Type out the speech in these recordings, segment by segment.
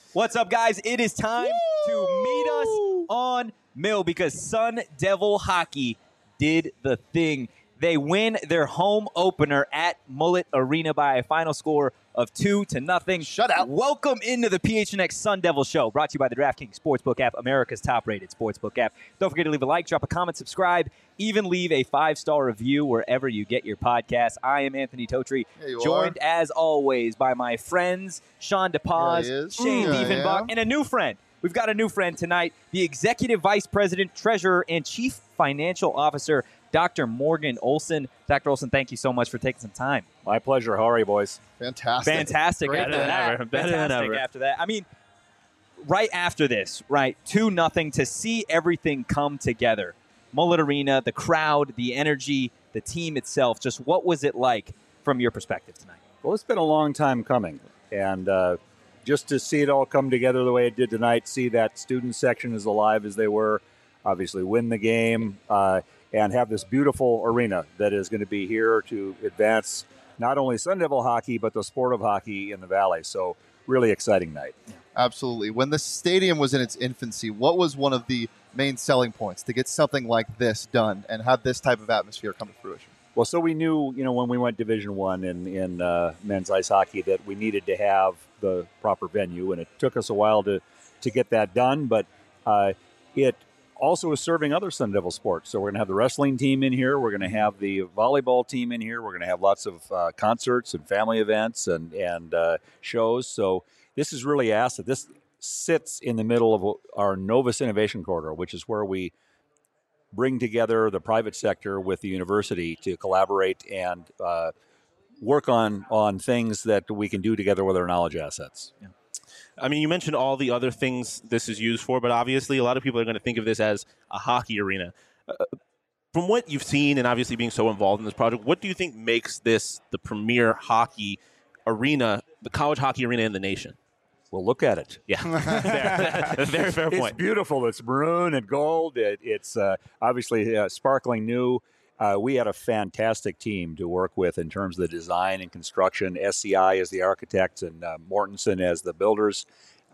What's up, guys? It is time to meet us on Mill because Sun Devil Hockey did the thing. They win their home opener at Mullet Arena by a final score of 2-0. Shut out. Welcome into the PHNX Sun Devil Show, brought to you by the DraftKings Sportsbook app, America's top-rated sportsbook app. Don't forget to leave a like, drop a comment, subscribe, even leave a 5-star review wherever you get your podcast. I am Anthony Totri, joined as always by my friends Sean DePaz, Shane Diefenbach, and a new friend. We've got a new friend tonight, the Executive Vice President, Treasurer, and Chief Financial Officer, Dr. Morgan Olson. Dr. Olson, thank you so much for taking some time. My pleasure. How are you, boys? Fantastic. Better than ever. After that. I mean, right after this, right, 2-0 to see everything come together. Mullet Arena, the crowd, the energy, the team itself. Just what was it like from your perspective tonight? Well, it's been a long time coming. And just to see it all come together the way it did tonight, see that student section as alive as they were, obviously win the game, and have this beautiful arena that is going to be here to advance not only Sun Devil hockey, but the sport of hockey in the Valley. So really exciting night. Absolutely. When the stadium was in its infancy, what was one of the main selling points to get something like this done and have this type of atmosphere come to fruition? Well, so we knew, when we went Division I in men's ice hockey that we needed to have the proper venue, and it took us a while to get that done, but it also is serving other Sun Devil sports. So we're going to have the wrestling team in here. We're going to have the volleyball team in here. We're going to have lots of concerts and family events and shows. So this is really asset. This sits in the middle of our Novus Innovation Corridor, which is where we bring together the private sector with the university to collaborate and work on things that we can do together with our knowledge assets. Yeah. I mean, you mentioned all the other things this is used for, but obviously a lot of people are going to think of this as a hockey arena. From what you've seen and obviously being so involved in this project, what do you think makes this the premier hockey arena, the college hockey arena in the nation? Well, look at it. Yeah, very fair point. It's beautiful. It's maroon and gold. It's obviously sparkling new. We had a fantastic team to work with in terms of the design and construction. SCI as the architects and Mortensen as the builders.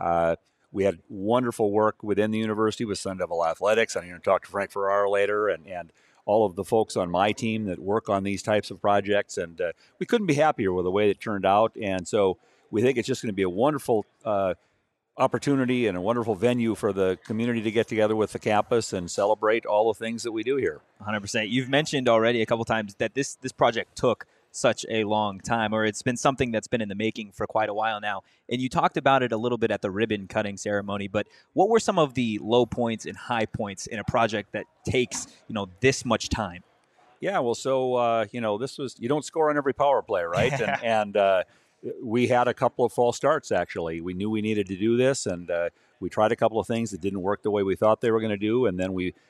We had wonderful work within the university with Sun Devil Athletics. I'm going to talk to Frank Ferrara later and all of the folks on my team that work on these types of projects. And we couldn't be happier with the way it turned out. And so we think it's just going to be a wonderful opportunity and a wonderful venue for the community to get together with the campus and celebrate all the things that we do here. 100%. You've mentioned already a couple times that this project took such a long time, or it's been something that's been in the making for quite a while now. And you talked about it a little bit at the ribbon cutting ceremony, but what were some of the low points and high points in a project that takes, this much time? Yeah, well, so, this was, you don't score on every power play, right? and we had a couple of false starts, actually. We knew we needed to do this, and we tried a couple of things that didn't work the way we thought they were going to do, and then we,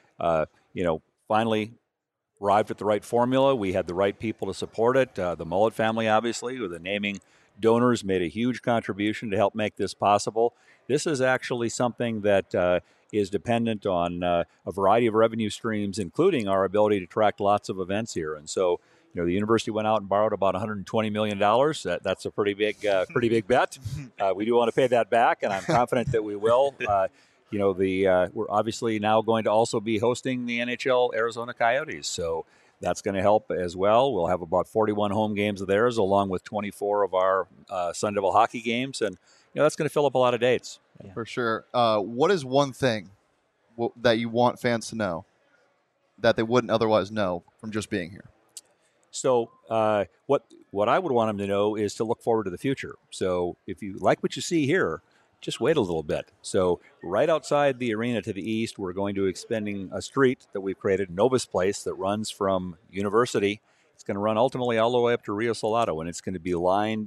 finally arrived at the right formula. We had the right people to support it. The Mullet family, obviously, with the naming donors, made a huge contribution to help make this possible. This is actually something that is dependent on a variety of revenue streams, including our ability to track lots of events here, and so the university went out and borrowed about $120 million. That's a pretty big bet. We do want to pay that back, and I'm confident that we will. We're obviously now going to also be hosting the NHL Arizona Coyotes, so that's going to help as well. We'll have about 41 home games of theirs, along with 24 of our Sun Devil hockey games, and that's going to fill up a lot of dates. Yeah. For sure. What is one thing that you want fans to know that they wouldn't otherwise know from just being here? So what I would want them to know is to look forward to the future. So if you like what you see here, just wait a little bit. So right outside the arena to the east, we're going to be expanding a street that we've created, Novus Place, that runs from University. It's going to run ultimately all the way up to Rio Salado, and it's going to be lined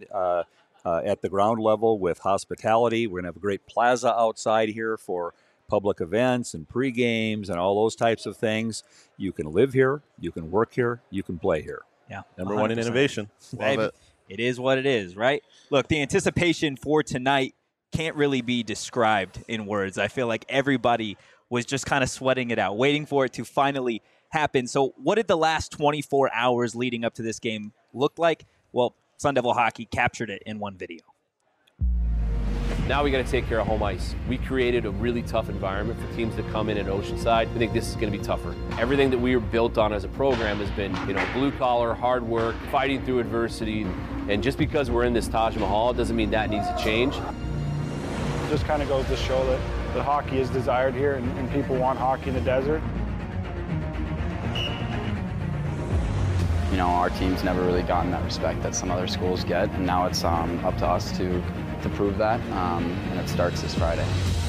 at the ground level with hospitality. We're going to have a great plaza outside here for public events and pre-games and all those types of things. You can live here, you can work here, you can play here. Yeah, number 1 in innovation. Baby, it is what it is, right? Look, the anticipation for tonight can't really be described in words. I feel like everybody was just kind of sweating it out, waiting for it to finally happen. So what did the last 24 hours leading up to this game look like? Well, Sun Devil Hockey captured it in one video. Now we got to take care of home ice. We created a really tough environment for teams to come in at Oceanside. I think this is going to be tougher. Everything that we were built on as a program has been, blue collar, hard work, fighting through adversity. And just because we're in this Taj Mahal doesn't mean that needs to change. It just kind of goes to show that hockey is desired here and people want hockey in the desert. Our team's never really gotten that respect that some other schools get, and now it's up to us to prove that, and it starts this Friday.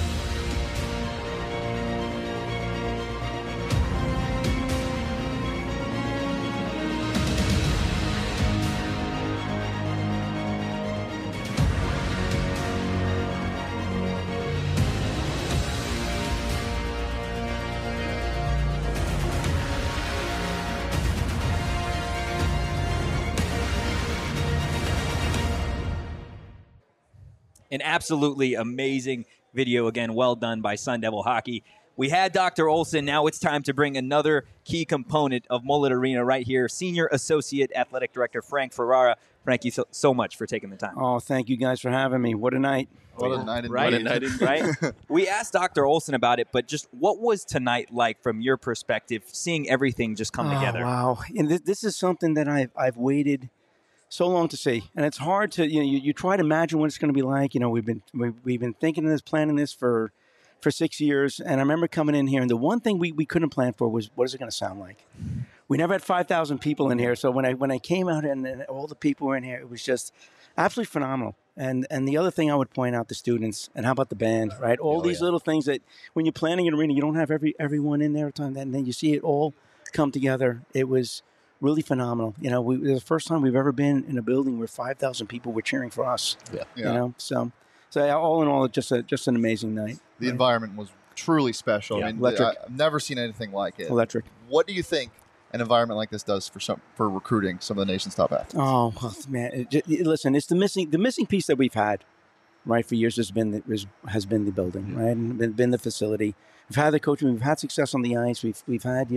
An absolutely amazing video. Again, well done by Sun Devil Hockey. We had Dr. Olson. Now it's time to bring another key component of Mullet Arena right here. Senior Associate Athletic Director Frank Ferrara. Frank, you so much for taking the time. Oh, thank you guys for having me. What a night. What a night indeed. Right? What a night indeed. Right? We asked Dr. Olson about it, but just what was tonight like from your perspective, seeing everything just come together? Wow. And this is something that I've waited so long to see, and it's hard to you try to imagine what it's going to be like. We've been thinking of this, planning this for 6 years, and I remember coming in here, and the one thing we couldn't plan for was what is it going to sound like. We never had 5,000 people in here, so when I came out and all the people were in here, it was just absolutely phenomenal. And the other thing I would point out, the students, and how about the band, right? All these little things that when you're planning an arena, you don't have everyone in there at a time, and then you see it all come together. It was really phenomenal. It was the first time we've ever been in a building where 5,000 people were cheering for us. Yeah. So all in all, just an amazing night. The environment was truly special. Yeah. I mean, Electric. I've never seen anything like it. Electric. What do you think an environment like this does for recruiting some of the nation's top athletes? Oh well, man! Listen, it's the missing piece that we've had, right, for years has been the building, right, and been the facility. We've had the coaching. We've had success on the ice. We've had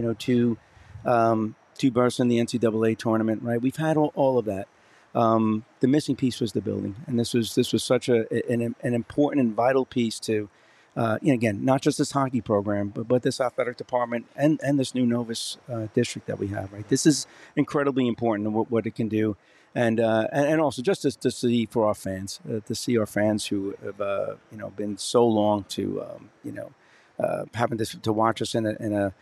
two berths in the NCAA tournament, right? We've had all of that. The missing piece was the building, and this was such an important and vital piece to, again, not just this hockey program, but this athletic department and this new Novus district that we have, right? This is incredibly important in what it can do, and also just to see for our fans, to see our fans who have been so long to having to watch us in a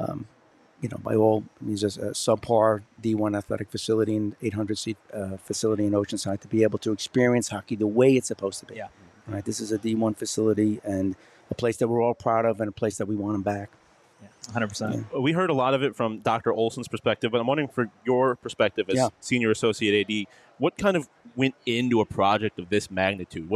by all means, a subpar D1 athletic facility and 800-seat facility in Oceanside, to be able to experience hockey the way it's supposed to be. Yeah. Right. This is a D1 facility and a place that we're all proud of and a place that we want them back. Yeah, 100%. Yeah. We heard a lot of it from Dr. Olson's perspective, but I'm wondering for your perspective as Senior Associate AD, what kind of went into a project of this magnitude?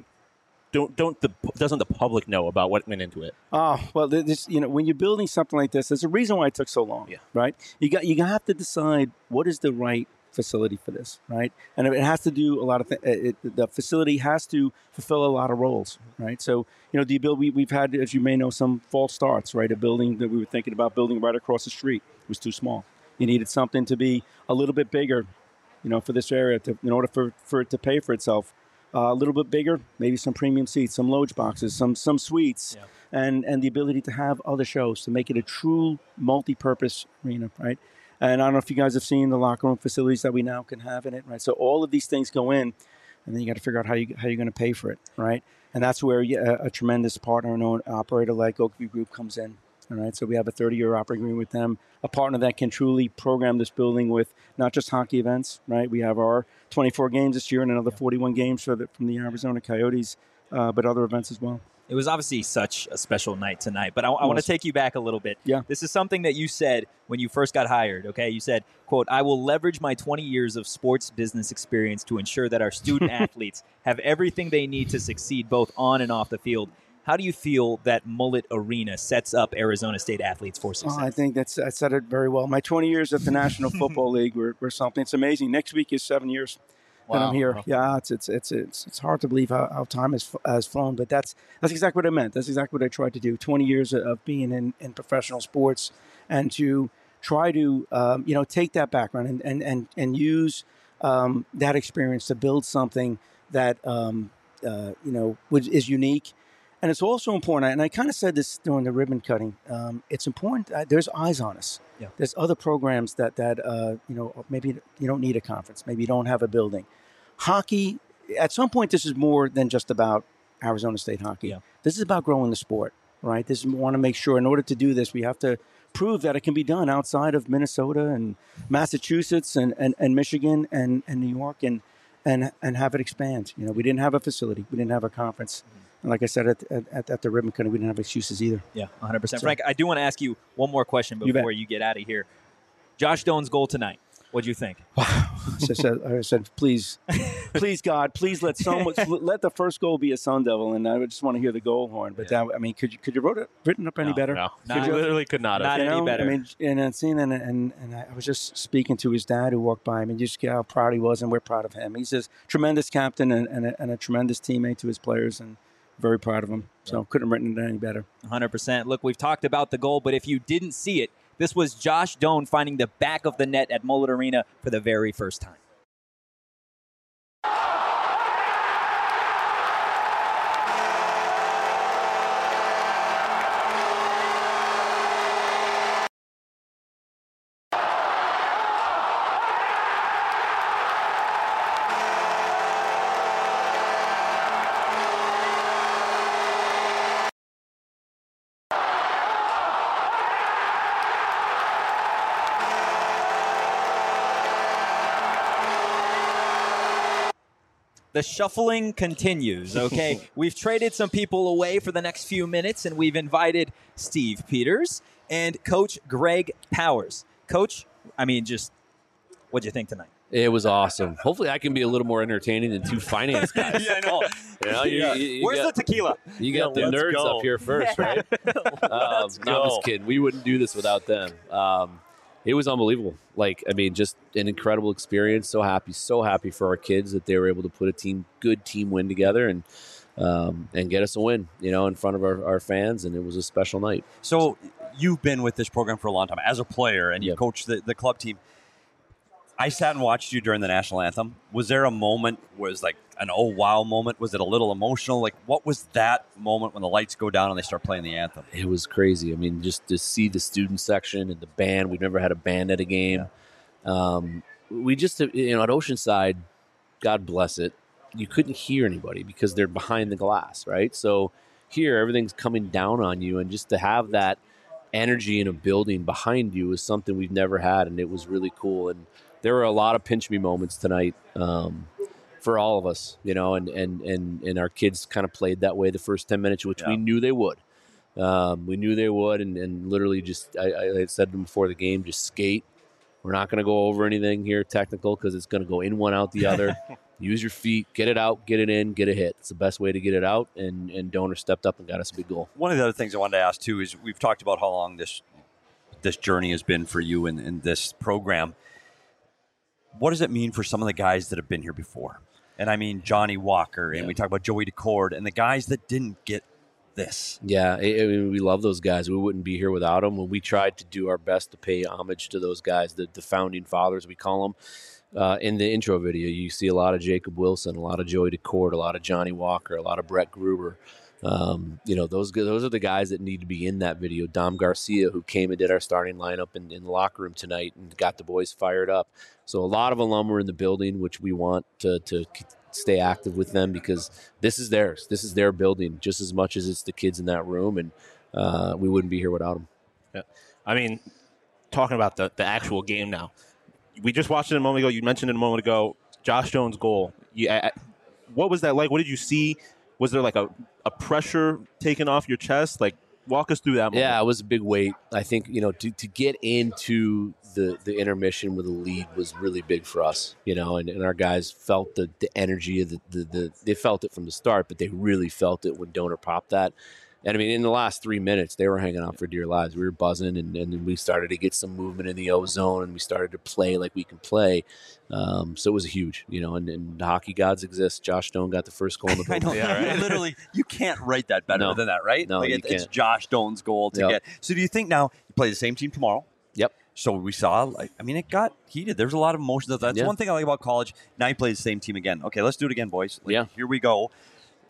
Doesn't the public know about what went into it? Oh, well, when you're building something like this, there's a reason why it took so long, right? You have to decide what is the right facility for this, right? And it has to do a lot of things. The facility has to fulfill a lot of roles, right? So, we've had, as you may know, some false starts, right? A building that we were thinking about building right across the street was too small. You needed something to be a little bit bigger, for this area in order for it to pay for itself. A little bit bigger, maybe some premium seats, some loge boxes, some suites, and the ability to have other shows to make it a true multi-purpose arena, right? And I don't know if you guys have seen the locker room facilities that we now can have in it, right? So all of these things go in, and then you got to figure out how you're going to pay for it, right? And that's where a tremendous partner and operator like Oakview Group comes in. All right, so we have a 30-year operating agreement with them, a partner that can truly program this building with not just hockey events, right? We have our 24 games this year and another 41 games from the Arizona Coyotes, but other events as well. It was obviously such a special night tonight, but I want to take you back a little bit. Yeah. This is something that you said when you first got hired, okay? You said, quote, "I will leverage my 20 years of sports business experience to ensure that our student athletes have everything they need to succeed both on and off the field." How do you feel that Mullet Arena sets up Arizona State athletes for success? I think I said it very well. My 20 years at the National Football League were something. It's amazing. Next week is 7 years that I'm here. Yeah, it's hard to believe how time has flown, but that's exactly what I meant. That's exactly what I tried to do. 20 years of being in professional sports, and to try to take that background and use that experience to build something that which is unique. And it's also important, and I kind of said this during the ribbon cutting, it's important, there's eyes on us. Yeah. There's other programs that maybe you don't need a conference. Maybe you don't have a building. Hockey, at some point, this is more than just about Arizona State hockey. Yeah. This is about growing the sport, right? We want to make sure in order to do this, we have to prove that it can be done outside of Minnesota and Massachusetts and Michigan and New York and have it expand. We didn't have a facility. We didn't have a conference. And like I said, at the ribbon cutting, we didn't have excuses either. Yeah, 100%. Frank, I do want to ask you one more question before you get out of here. Josh Doan's goal tonight. What'd you think? I said, please, God, please let the first goal be a Sun Devil, and I would just want to hear the goal horn. But could you written up any better? No, literally could not have. Not any better. I mean, and I was just speaking to his dad who walked by him, and just get how proud he was, and we're proud of him. He's a tremendous captain and a tremendous teammate to his players, and very proud of him. So couldn't have written it any better. 100%. Look, we've talked about the goal, but if you didn't see it, this was Josh Doan finding the back of the net at Mullet Arena for the very first time. The shuffling continues, okay? We've traded some people away for the next few minutes, and we've invited Steve Peters and Coach Greg Powers. Coach, what'd you think tonight? It was awesome. Hopefully I can be a little more entertaining than two finance guys. Yeah, I know. Where's the tequila? You got the nerds up here first, right? No, I'm just kidding. We wouldn't do this without them. It was unbelievable. Just an incredible experience. So happy for our kids that they were able to put a good team win together and get us a win, in front of our fans. And it was a special night. So you've been with this program for a long time as a player, and you coached the club team. I sat and watched you during the national anthem. Was there a moment where it was like an oh wow moment? Was it a little emotional? What was that moment when the lights go down and they start playing the anthem? It was crazy. Just to see the student section and the band. We've never had a band at a game. Yeah. We just, at Oceanside, God bless it, you couldn't hear anybody because they're behind the glass, right? So here, everything's coming down on you, and just to have that energy in a building behind you is something we've never had, and it was really cool. And there were a lot of pinch me moments tonight for all of us, and our kids kind of played that way the first 10 minutes, which we knew they would. And literally just, I said to them before the game, just skate. We're not going to go over anything here technical because it's going to go in one, out the other. Use your feet, get it out, get it in, get a hit. It's the best way to get it out, and Donor stepped up and got us a big goal. One of the other things I wanted to ask, too, is we've talked about how long this journey has been for you in this program. What does it mean for some of the guys that have been here before? And I mean Johnny Walker, and we talk about Joey DeCord, and the guys that didn't get this. Yeah, we love those guys. We wouldn't be here without them. When we tried to do our best to pay homage to those guys, the founding fathers, we call them. In the intro video, you see a lot of Jacob Wilson, a lot of Joey DeCord, a lot of Johnny Walker, a lot of Brett Gruber. Those are the guys that need to be in that video. Dom Garcia, who came and did our starting lineup in the locker room tonight and got the boys fired up. So a lot of alum were in the building, which we want to stay active with them because this is theirs. This is their building just as much as it's the kids in that room, and we wouldn't be here without them. Yeah. Talking about the actual game now, we just watched it a moment ago. You mentioned it a moment ago, Josh Doan's goal. What was that like? What did you see? Was there like a pressure taken off your chest? Walk us through that moment. Yeah, it was a big weight. I think, to get into the intermission with a lead was really big for us, and our guys felt the energy of they felt it from the start, but they really felt it when Donor popped that. And in the last 3 minutes, they were hanging out for dear lives. We were buzzing, and then we started to get some movement in the O-zone, and we started to play like we can play. So it was huge, and the hockey gods exist. Josh Doan got the first goal in the building. I know. Yeah, right? Literally, you can't write that better than that, right? No, it's Josh Doan's goal to get. So do you think now you play the same team tomorrow? Yep. So we saw, it got heated. There's a lot of emotions. That's one thing I like about college. Now you play the same team again. Okay, let's do it again, boys. Here we go.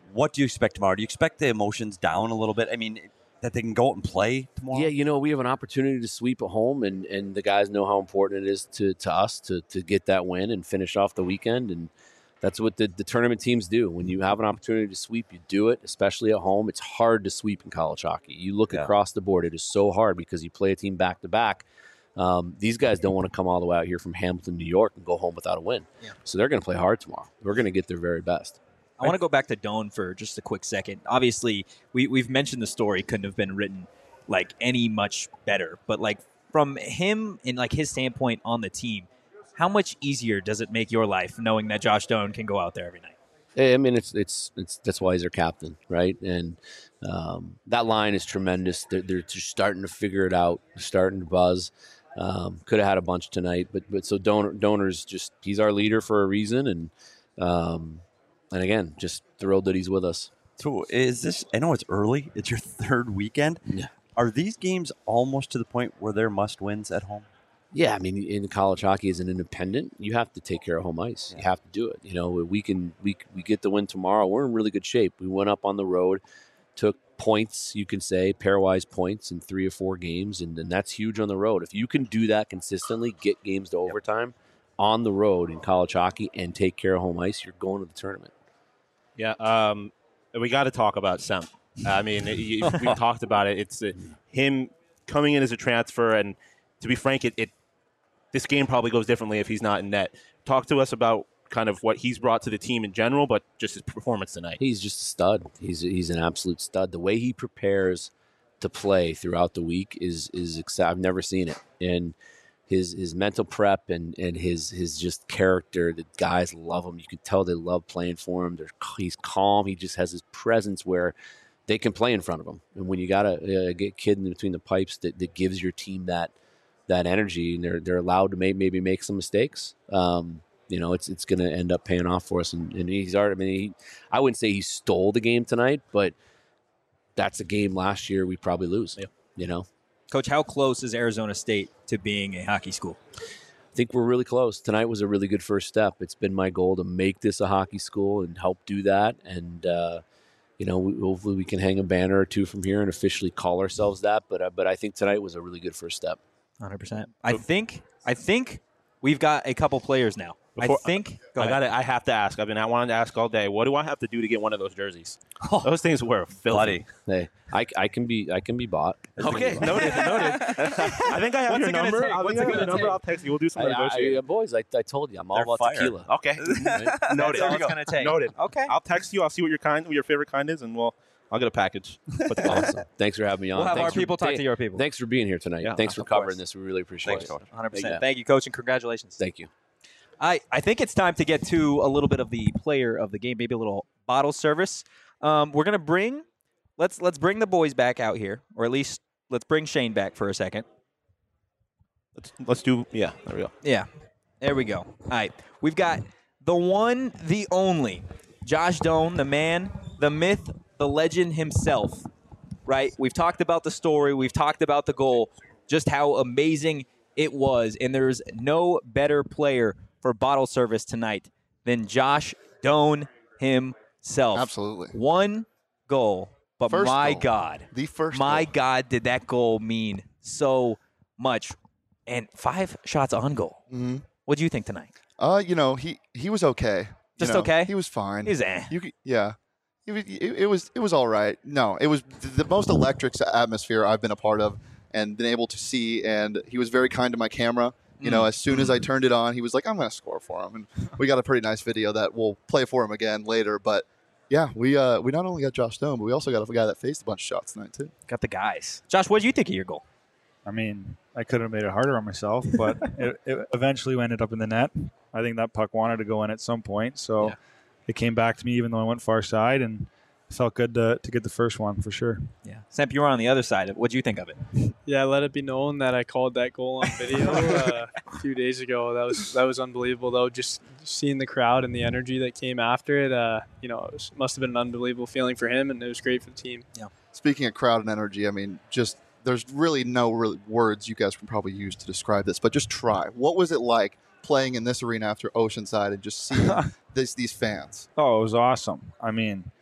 What do you expect tomorrow? Do you expect the emotions down a little bit? I mean, that they can go out and play tomorrow? Yeah, we have an opportunity to sweep at home, and the guys know how important it is to us to get that win and finish off the weekend. And that's what the tournament teams do. When you have an opportunity to sweep, you do it, especially at home. It's hard to sweep in college hockey. You look across the board, it is so hard because you play a team back-to-back. These guys don't want to come all the way out here from Hamilton, New York, and go home without a win. Yeah. So they're going to play hard tomorrow. We're going to get their very best. I want to go back to Doan for just a quick second. Obviously, we've mentioned the story couldn't have been written like any much better, but like from him and like his standpoint on the team, how much easier does it make your life knowing that Josh Doan can go out there every night? I mean, it's that's why he's their captain, right? And that line is tremendous. They're just starting to figure it out, starting to buzz. Could have had a bunch tonight, but so Doaner's just he's our leader for a reason, and again, just thrilled that he's with us. So is this? I know it's early. It's your third weekend. Yeah. Are these games almost to the point where they're must-wins at home? Yeah, I mean, in college hockey as an independent, you have to take care of home ice. You have to do it. We get the win tomorrow. We're in really good shape. We went up on the road, took points, you can say, pairwise points in 3 or 4 games, and that's huge on the road. If you can do that consistently, get games to overtime on the road in college hockey and take care of home ice, you're going to the tournament. Yeah, we got to talk about Sem. I mean, we've talked about it. It's him coming in as a transfer, and to be frank, this game probably goes differently if he's not in net. Talk to us about kind of what he's brought to the team in general, but just his performance tonight. He's just a stud. He's an absolute stud. The way he prepares to play throughout the week is I've never seen it. And his mental prep and his just character, the guys love him. You can tell they love playing for him. He's calm. He just has his presence where they can play in front of him. And when you got a kid in between the pipes that gives your team that energy, and they're allowed to maybe make some mistakes, it's going to end up paying off for us. And he's already. I mean, I wouldn't say he stole the game tonight, but that's a game last year we probably lose. Yeah. Coach, how close is Arizona State to being a hockey school? I think we're really close. Tonight was a really good first step. It's been my goal to make this a hockey school and help do that. And hopefully we can hang a banner or two from here and officially call ourselves that. But I think tonight was a really good first step. 100%. I think we've got a couple players now. I have to ask. I wanted to ask all day. What do I have to do to get one of those jerseys? Those things were filthy. Hey, I can be bought. Okay, noted. I think I have your number. I'll text you. We'll do some negotiating. Boys, I told you, I'm all about tequila. Okay, noted. That's all it's gonna take. Noted. Okay, I'll text you. I'll see what your favorite kind is, and I'll get a package. Awesome. Thanks for having me on. We'll have our people talk to your people. Thanks for being here tonight. Yeah, thanks for covering this. We really appreciate it. Coach. 100%. Thank you, Coach, and congratulations. Thank you. I think it's time to get to a little bit of the player of the game, maybe a little bottle service. We're gonna bring let's bring the boys back out here, or at least let's bring Shane back for a second. Let's do there we go. Yeah, there we go. All right, we've got the one, the only, Josh Doan, the man, the myth, the legend himself. Right? We've talked about the story. We've talked about the goal. Just how amazing it was, and there's no better player for bottle service tonight than Josh Doan himself. Absolutely. One goal, but First my goal. God. The first My goal. God, did that goal mean so much. And 5 shots on goal. Mm-hmm. What do you think tonight? He was okay. Just okay? He was fine. He's It was all right. No, it was the most electric atmosphere I've been a part of and been able to see. And he was very kind to my camera. As soon as I turned it on, he was like, "I'm going to score for him." And we got a pretty nice video that we'll play for him again later. But yeah, we not only got Josh Doan, but we also got a guy that faced a bunch of shots tonight too. Got the guys. Josh, what did you think of your goal? I mean, I could have made it harder on myself, but it eventually ended up in the net. I think that puck wanted to go in at some point, so it came back to me even though I went far side, and it felt good to get the first one for sure. Yeah. Samp, you were on the other side. What did you think of it? Yeah, let it be known that I called that goal on video a few days ago. That was unbelievable, though. Just seeing the crowd and the energy that came after it, it must have been an unbelievable feeling for him, and it was great for the team. Yeah. Speaking of crowd and energy, I mean, there's really no words you guys can probably use to describe this, but just try. What was it like playing in this arena after Oceanside and just seeing these fans? Oh, it was awesome. I mean,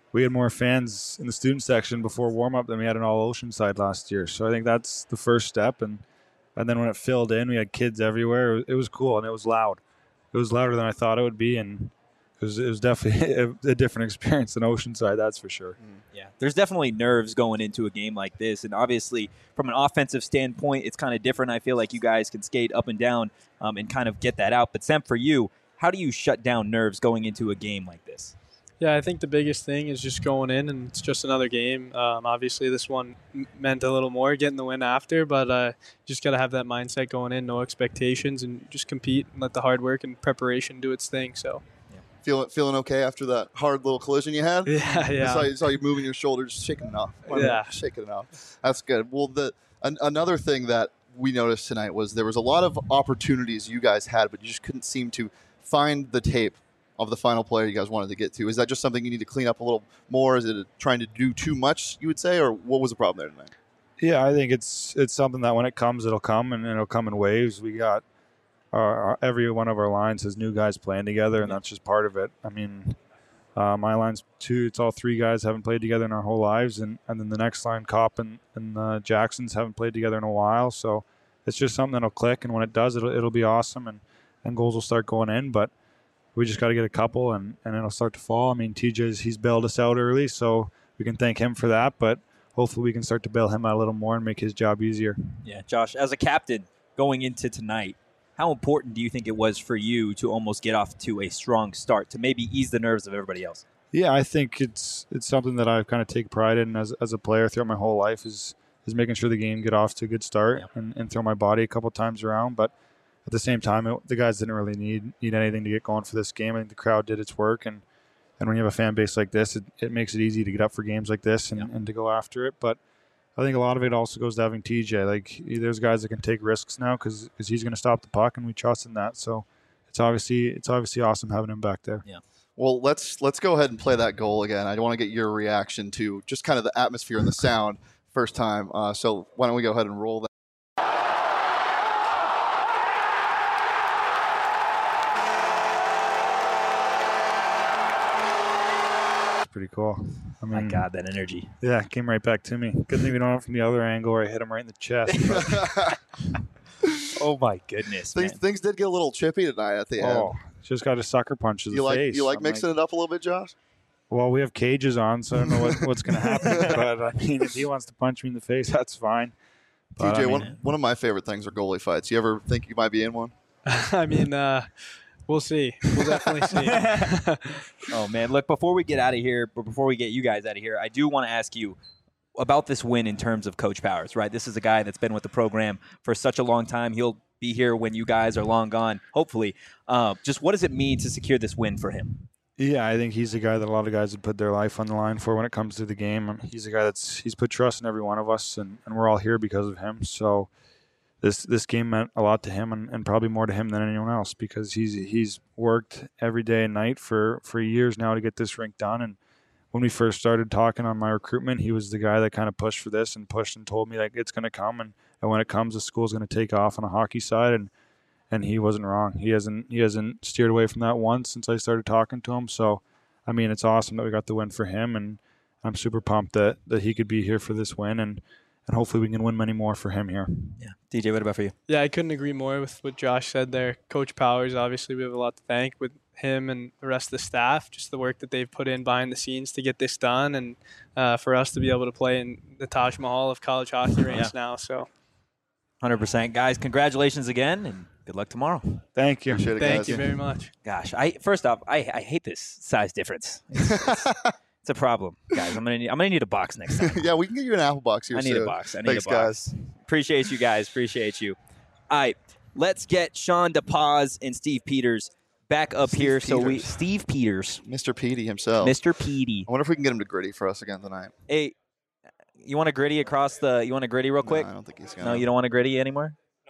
we had more fans in the student section before warm-up than we had in all Oceanside last year. So I think that's the first step. And then when it filled in, we had kids everywhere. It was cool, and it was loud. It was louder than I thought it would be, and it was definitely a different experience than Oceanside, that's for sure. Yeah, there's definitely nerves going into a game like this, and obviously from an offensive standpoint, it's kind of different. I feel like you guys can skate up and down and kind of get that out. But Sam, for you, how do you shut down nerves going into a game like this? Yeah, I think the biggest thing is just going in, and it's just another game. Obviously, this one meant a little more, getting the win after, but just got to have that mindset going in, no expectations, and just compete and let the hard work and preparation do its thing. So, Feeling okay after that hard little collision you had? Yeah. I saw you moving your shoulders, shaking it off. Shaking it off. That's good. Well, another thing that we noticed tonight was there was a lot of opportunities you guys had, but you just couldn't seem to find the tape of the final player you guys wanted to get to. Is that just something you need to clean up a little more? Is it trying to do too much, you would say, or what was the problem there tonight? Yeah, I think it's something that when it comes, it'll come, and it'll come in waves. We got every one of our lines has new guys playing together, and that's just part of it. I mean, my line's it's all three guys haven't played together in our whole lives, and then the next line, Kopp and Jacksons haven't played together in a while. So it's just something that'll click, and when it does, it'll be awesome, and goals will start going in. But we just got to get a couple, and it'll start to fall. I mean, he's bailed us out early, so we can thank him for that. But hopefully we can start to bail him out a little more and make his job easier. Yeah, Josh, as a captain going into tonight, how important do you think it was for you to almost get off to a strong start to maybe ease the nerves of everybody else? Yeah, I think it's something that I've kind of take pride in as a player throughout my whole life is making sure the game get off to a good start and throw my body a couple times around. But at the same time, the guys didn't really need anything to get going for this game. I think the crowd did its work, and when you have a fan base like this, it makes it easy to get up for games like this and to go after it. But I think a lot of it also goes to having TJ. Like, there's guys that can take risks now because he's going to stop the puck, and we trust in that. So it's obviously awesome having him back there. Yeah. Well, let's go ahead and play that goal again. I want to get your reaction to just kind of the atmosphere and the sound first time. So why don't we go ahead and roll that? Pretty cool. I mean, my God, that energy. Yeah, it came right back to me. Good thing we don't have it from the other angle where I hit him right in the chest. Oh my goodness, things did get a little chippy tonight at the end. Just got a sucker punch to the face. You like mixing it up a little bit, Josh? Well, we have cages on, so I don't know what's going to happen. But I mean, if he wants to punch me in the face, that's fine. But, TJ, one of my favorite things are goalie fights. You ever think you might be in one? I mean, we'll see. We'll definitely see. Oh, man. Look, before we get out of here, but before we get you guys out of here, I do want to ask you about this win in terms of Coach Powers, right? This is a guy that's been with the program for such a long time. He'll be here when you guys are long gone, hopefully. Just what does it mean to secure this win for him? Yeah, I think he's a guy that a lot of guys would put their life on the line for when it comes to the game. He's a guy he's put trust in every one of us, and we're all here because of him. So this game meant a lot to him, and probably more to him than anyone else, because he's worked every day and night for years now to get this rink done. And when we first started talking on my recruitment, he was the guy that kind of pushed for this and pushed and told me like it's going to come, and when it comes, the school's going to take off on a hockey side. And he wasn't wrong. He hasn't steered away from that once since I started talking to him. So, I mean, it's awesome that we got the win for him, and I'm super pumped that he could be here for this win, and hopefully we can win many more for him here. Yeah. DJ, what about for you? Yeah, I couldn't agree more with what Josh said there. Coach Powers, obviously, we have a lot to thank with him and the rest of the staff, just the work that they've put in behind the scenes to get this done, and for us to be able to play in the Taj Mahal of college hockey rinks now. So, 100%. Guys, congratulations again, and good luck tomorrow. Thank you. Thank you very much. Gosh, first off, I hate this size difference. It's a problem, guys. I'm gonna need a box next time. Yeah, we can get you an apple box here. I need a box. Thanks, guys. Appreciate you guys. Appreciate you. All right, let's get Sean DePaz and Steve Peters back up here. Steve Peters, Mr. Petey himself, Mr. Petey. I wonder if we can get him to gritty for us again tonight. Hey, you want a gritty across the? You want a gritty real quick? No, I don't think he's gonna. No, you don't want a gritty anymore.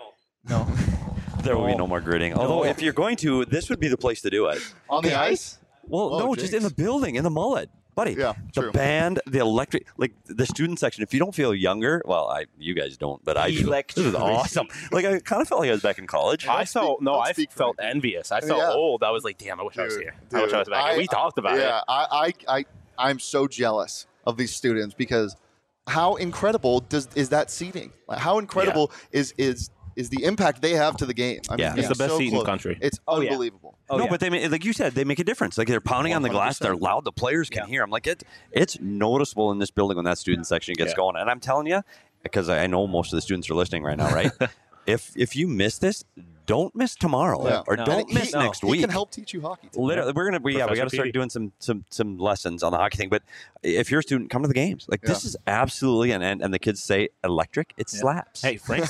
No. There will be no more gritting. Although, if you're going to, this would be the place to do it. On the ice? Well, no, just in the building, in the mullet. Buddy, yeah, the band, the electric, like the student section. If you don't feel younger, well, you guys don't, but I do. This is awesome. Like, I kind of felt like I was back in college. I felt envious. I felt old. I was like, damn, I wish I was here. I wish I was back. We talked about it. Yeah, I'm so jealous of these students because how incredible is that seating? Like, how incredible is the impact they have to the game? I mean, It's the best seat in the country. It's unbelievable. But they like you said, they make a difference. Like they're pounding on the glass, they're loud, the players can hear. I'm like, it's noticeable in this building when that student section gets going. And I'm telling you, because I know most of the students are listening right now, right? If you miss this, don't miss tomorrow or don't miss next week. He can help teach you hockey. Literally, we got to start doing some lessons on the hockey thing. But if you're a student, come to the games. Like this is absolutely and the kids say electric. It slaps. Hey, Frank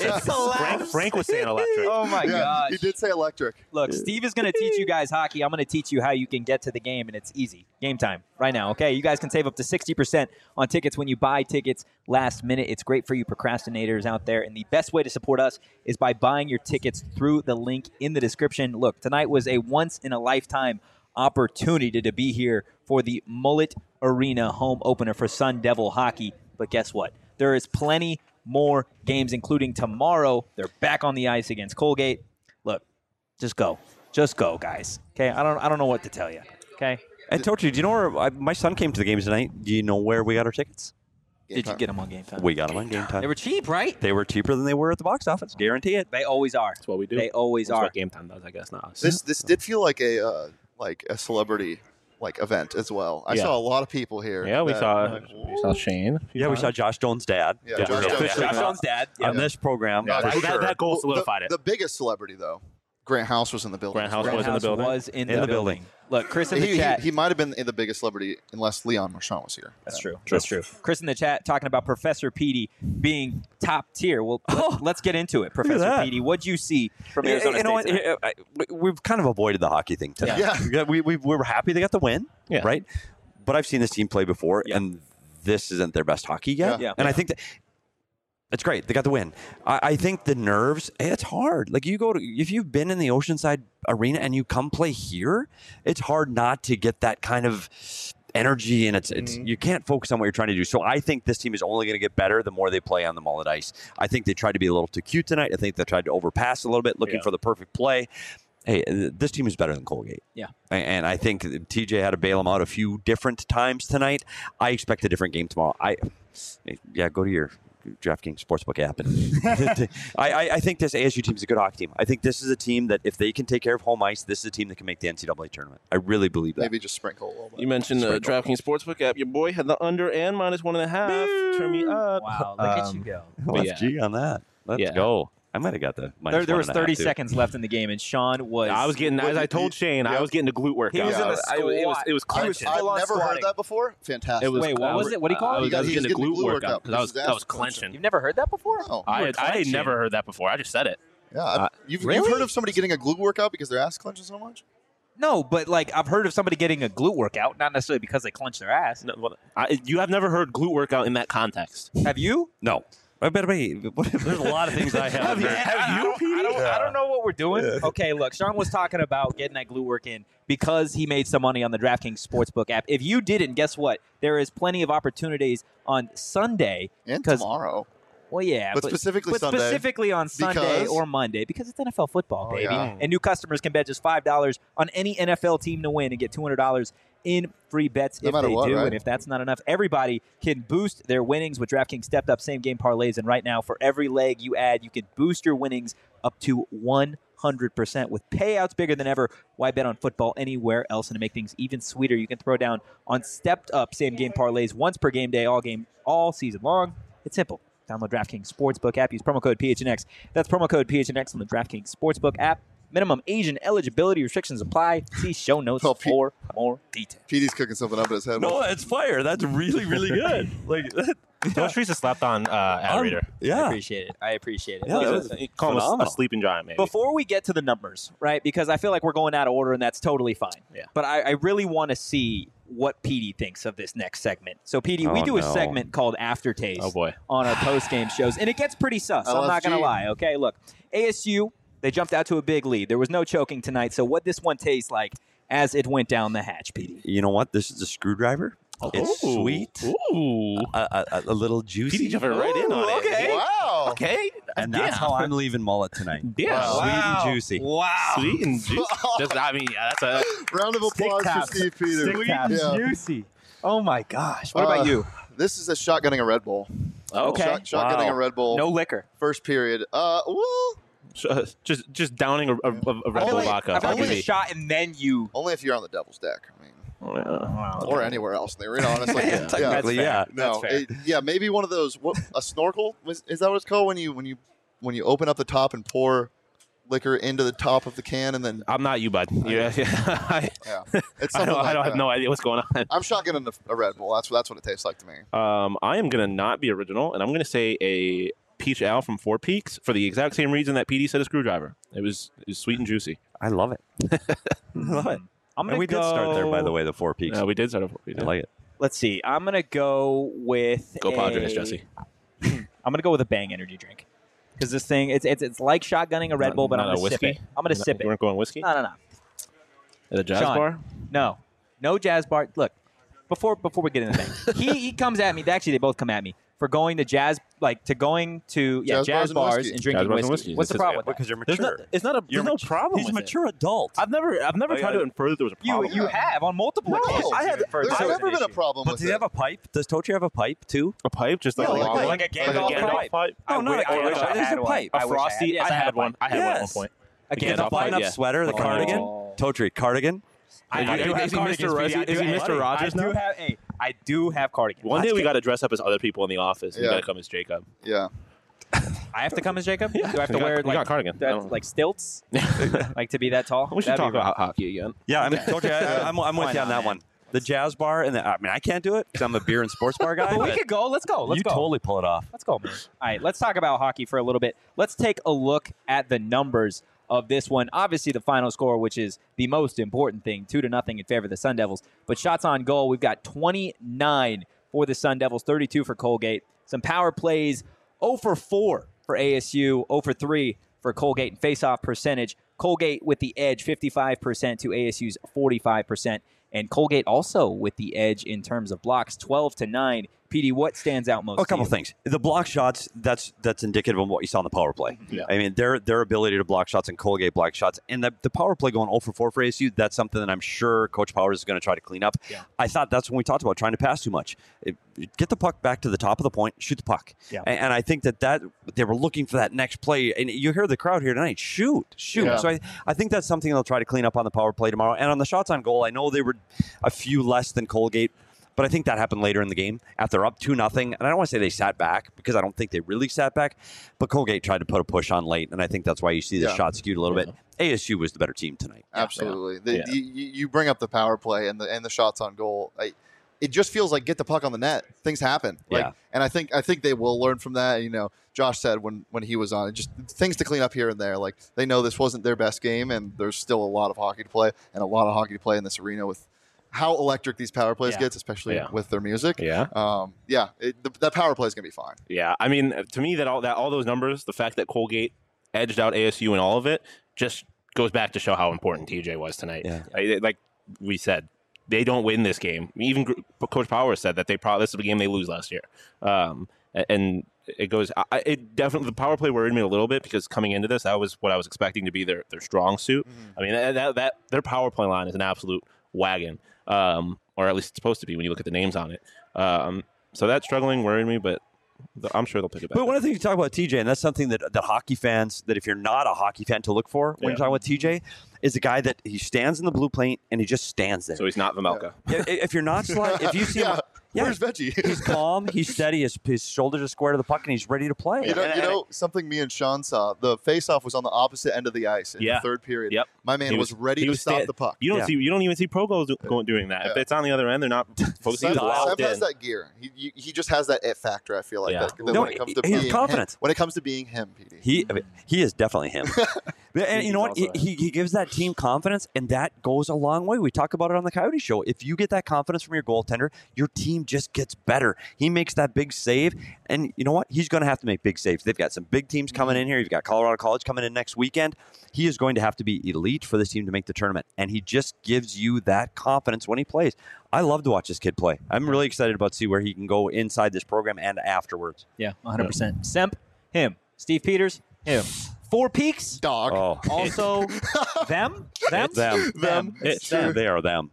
was saying electric. Oh my gosh, he did say electric. Look, Steve is going to teach you guys hockey. I'm going to teach you how you can get to the game, and it's easy. Game time right now. Okay, you guys can save up to 60% on tickets when you buy tickets last minute. It's great for you procrastinators out there, and the best way to support us is by buying your tickets through the link in the description. Look, tonight was a once-in-a-lifetime opportunity to be here for the Mullet Arena home opener for Sun Devil hockey. But guess what? There is plenty more games, including tomorrow. They're back on the ice against Colgate. Look, just go. Just go, guys. Okay? I don't know what to tell you. Okay? And Tochi, do you know where my son came to the games tonight? Do you know where we got our tickets? Did you get them on Game Time? We got them on Game Time. They were cheap, right? They were cheaper than they were at the box office. Guarantee it. They always are. That's what we do. They always That's are. what Game Time does, I guess. Not us. This did feel like a celebrity event as well. I saw a lot of people here. Yeah, we saw Shane. Yeah, we saw Josh Jones' dad. Yeah, Josh Jones' dad. On this program. Yeah, that goal solidified it. The biggest celebrity, though, Grant House was in the building. Grant House was in the building. Look, Chris in the chat. He might have been the biggest celebrity unless Leon Marchand was here. That's true. That's true. Chris in the chat talking about Professor Petey being top tier. Well, let's get into it. Professor Petey, what'd you see from Arizona State tonight? We've kind of avoided the hockey thing tonight. Yeah. We were happy they got the win, right? But I've seen this team play before, and this isn't their best hockey yet. Yeah. And I think that it's great. They got the win. I think the nerves, it's hard. Like if you've been in the Oceanside Arena and you come play here, it's hard not to get that kind of energy, and it's you can't focus on what you're trying to do. So I think this team is only going to get better the more they play on the Mullet ice. I think they tried to be a little too cute tonight. I think they tried to overpass a little bit, looking for the perfect play. Hey, this team is better than Colgate. Yeah. And I think TJ had to bail them out a few different times tonight. I expect a different game tomorrow. Go to your DraftKings Sportsbook app. And I think this ASU team is a good hockey team. I think this is a team that if they can take care of home ice, this is a team that can make the NCAA tournament. I really believe that. Maybe just sprinkle a little bit. You mentioned the DraftKings Sportsbook app. Your boy had the under and -1.5. Turn me up. Wow, look at you go. Let's G on that. Let's go. I might have got the minus There was 30 too. seconds left in the game, and Sean was. I was getting, as I told Shane, I was getting the glute workout. He was in the squat. It was clenching. I've never heard that before. Fantastic. Wait, what was it? What do you call it? I was getting the glute workout because I was clenching. You've never heard that before? No. I had never heard that before. I just said it. Yeah, you've heard of somebody getting a glute workout because their ass clenches so much? No, but I've heard of somebody getting a glute workout, not necessarily because they clench their ass. No, you have never heard glute workout in that context. Have you? No. There's a lot of things I haven't heard. Have you, Petey? I don't know what we're doing. Okay, look, Sean was talking about getting that glute work in because he made some money on the DraftKings Sportsbook app. If you didn't, guess what? There is plenty of opportunities on Sunday. And tomorrow. Well, yeah. But specifically Sunday. Specifically on Sunday or Monday because it's NFL football, baby. Yeah. And new customers can bet just $5 on any NFL team to win and get $200 in free bets if they do. Right? And if that's not enough, everybody can boost their winnings with DraftKings stepped up same-game parlays. And right now, for every leg you add, you can boost your winnings up to 100% with payouts bigger than ever. Why bet on football anywhere else? And to make things even sweeter, you can throw down on stepped up same-game parlays once per game day, all season long. It's simple. Download DraftKings Sportsbook app. Use promo code PHNX. That's promo code PHNX on the DraftKings Sportsbook app. Minimum Asian eligibility restrictions apply. See show notes for more details. Petey's cooking something up in his head. No, it's fire. That's really, really good. Those trees have slept on ad reader. Yeah. I appreciate it. Yeah, call him a sleeping giant, maybe. Before we get to the numbers, right, because I feel like we're going out of order, and that's totally fine. Yeah. But I really want to see what Petey thinks of this next segment. So, Petey, we do a segment called Aftertaste on our post-game shows, and it gets pretty sus. I'm not going to lie, okay? Look, ASU, they jumped out to a big lead. There was no choking tonight, so what this one tastes like as it went down the hatch, Petey? You know what? This is a screwdriver. It's sweet. Ooh. A little juicy. Petey jumping right in on it. Okay. Wow. Okay. And that's how I'm leaving Mullet tonight. Yeah. Wow. Sweet and juicy. Wow. Sweet and juicy. That's a round of applause for Steve Peters. Sweet and juicy. Oh my gosh! What about you? This is a shotgunning a Red Bull. Okay. Shotgunning a Red Bull. No liquor. First period. Just downing a Red Bull vodka. I feel like a shot and then you. Only if you're on the Devil's Deck. I mean, Oh, or anywhere else in the arena. Honestly, Technically, yeah. No, maybe one of those. A snorkel? Is that what it's called when you open up the top and pour liquor into the top of the can and then? I'm not you, bud. Yeah. It's I something like don't have that. no idea what's going on. I'm shotgunning a Red Bull. That's what it tastes like to me. I am gonna not be original, and I'm gonna say a peach ale from Four Peaks for the exact same reason that PD said a screwdriver. It was sweet and juicy. I love it. I love it. And we did start there, by the way, the Four Peaks. Yeah, we did start at Four Peaks. I like it. Let's see. I'm gonna go with Padres, Jesse. I'm gonna go with a Bang energy drink because this thing it's like shotgunning a Red Bull, but I'm gonna sip it. I'm gonna sip it. You weren't going whiskey? No. At a jazz Sean, bar? No jazz bar. Look, before we get into the thing, he comes at me. Actually, they both come at me for going to jazz bars and drinking whiskey. What's the problem with that? Because you're mature. There's no problem. He's a with mature adult. I've never tried to infer that there was a problem. You have on multiple occasions. There's never been a problem But with does he have a pipe? Does Tochi have a pipe too? A pipe, just like a long like a Gandalf pipe. No, not a Gandalf. There's a pipe. A frosty. I had one. I had one at one point. A The Gandalf button-up pipe. sweater, the cardigan. Tochi, cardigan. Is he Mr. Rogers now? I do have cardigan. One day we got to dress up as other people in the office. You got to come as Jacob. Yeah. I have to come as Jacob? Do I have to wear got cardigan. like stilts? Like to be that tall? We should talk about hockey again. Yeah, I'm with you on that one. The jazz bar, and I can't do it because I'm a beer and sports bar guy. But we could go. Let's go. You totally pull it off. Let's go, man. All right, let's talk about hockey for a little bit. Let's take a look at the numbers of this one. Obviously, the final score, which is the most important thing, 2-0 in favor of the Sun Devils. But shots on goal, we've got 29 for the Sun Devils, 32 for Colgate. Some power plays, 0 for 4 for ASU, 0 for 3 for Colgate. And face-off percentage, Colgate with the edge, 55% to ASU's 45%. And Colgate also with the edge in terms of blocks, 12-9. PD, what stands out most? A couple things. The block shots, that's indicative of what you saw in the power play. Yeah. I mean, their ability to block shots and Colgate block shots. And the power play going 0 for 4 for ASU, that's something that I'm sure Coach Powers is going to try to clean up. Yeah. I thought that's when we talked about trying to pass too much. Get the puck back to the top of the point, shoot the puck. Yeah. And I think that they were looking for that next play. And you hear the crowd here tonight, shoot. Yeah. So I think that's something they'll try to clean up on the power play tomorrow. And on the shots on goal, I know they were a few less than Colgate, but I think that happened later in the game after up 2-0. And I don't want to say they sat back because I don't think they really sat back, but Colgate tried to put a push on late, and I think that's why you see the shot skewed a little bit. ASU was the better team tonight. Absolutely. You bring up the power play and the shots on goal. It just feels like get the puck on the net. Things happen. And I think they will learn from that. You know, Josh said when he was on, just things to clean up here and there. Like they know this wasn't their best game, and there's still a lot of hockey to play and a lot of hockey to play in this arena with how electric these power plays gets, especially with their music. Yeah. That power play is gonna be fine. Yeah. I mean, to me, all those numbers, the fact that Colgate edged out ASU in all of it, just goes back to show how important TJ was tonight. Yeah. Like we said, they don't win this game. Even Coach Powers said that this is a game they lose last year. And it goes. It definitely, the power play worried me a little bit because coming into this, that was what I was expecting to be their strong suit. I mean, that their power play line is an absolute wagon, or at least it's supposed to be when you look at the names on it. So that struggling worried me, but I'm sure they'll pick it back. But one of the things you talk about TJ, and that's something that hockey fans, that if you're not a hockey fan to look for when you're talking about TJ, is a guy that he stands in the blue paint and he just stands there. So he's not Vamelka. If you're not, if you see him, where's Veggie? He's calm, he's steady, his shoulders are square to the puck, and he's ready to play. You know something me and Sean saw? The face-off was on the opposite end of the ice in the third period. Yep. My man was ready to stop the puck. You don't even see pro goals doing that. If it's on the other end, they're not focusing. Seb has that gear. He just has that it factor. I feel like that when it comes to he has being confidence. When it comes to being him, PD. He is definitely him. And you know what? He gives that team confidence, and that goes a long way. We talk about it on the Coyote Show. If you get that confidence from your goaltender, your team just gets better. He makes that big save, and you know what? He's going to have to make big saves. They've got some big teams coming in here. You've got Colorado College coming in next weekend. He is going to have to be elite for this team to make the tournament, and he just gives you that confidence when he plays. I love to watch this kid play. I'm really excited about to see where he can go inside this program and afterwards. Yeah, 100%. Semp, him. Steve Peters, him. Four Peaks, dog. Oh. Also, them. They are them.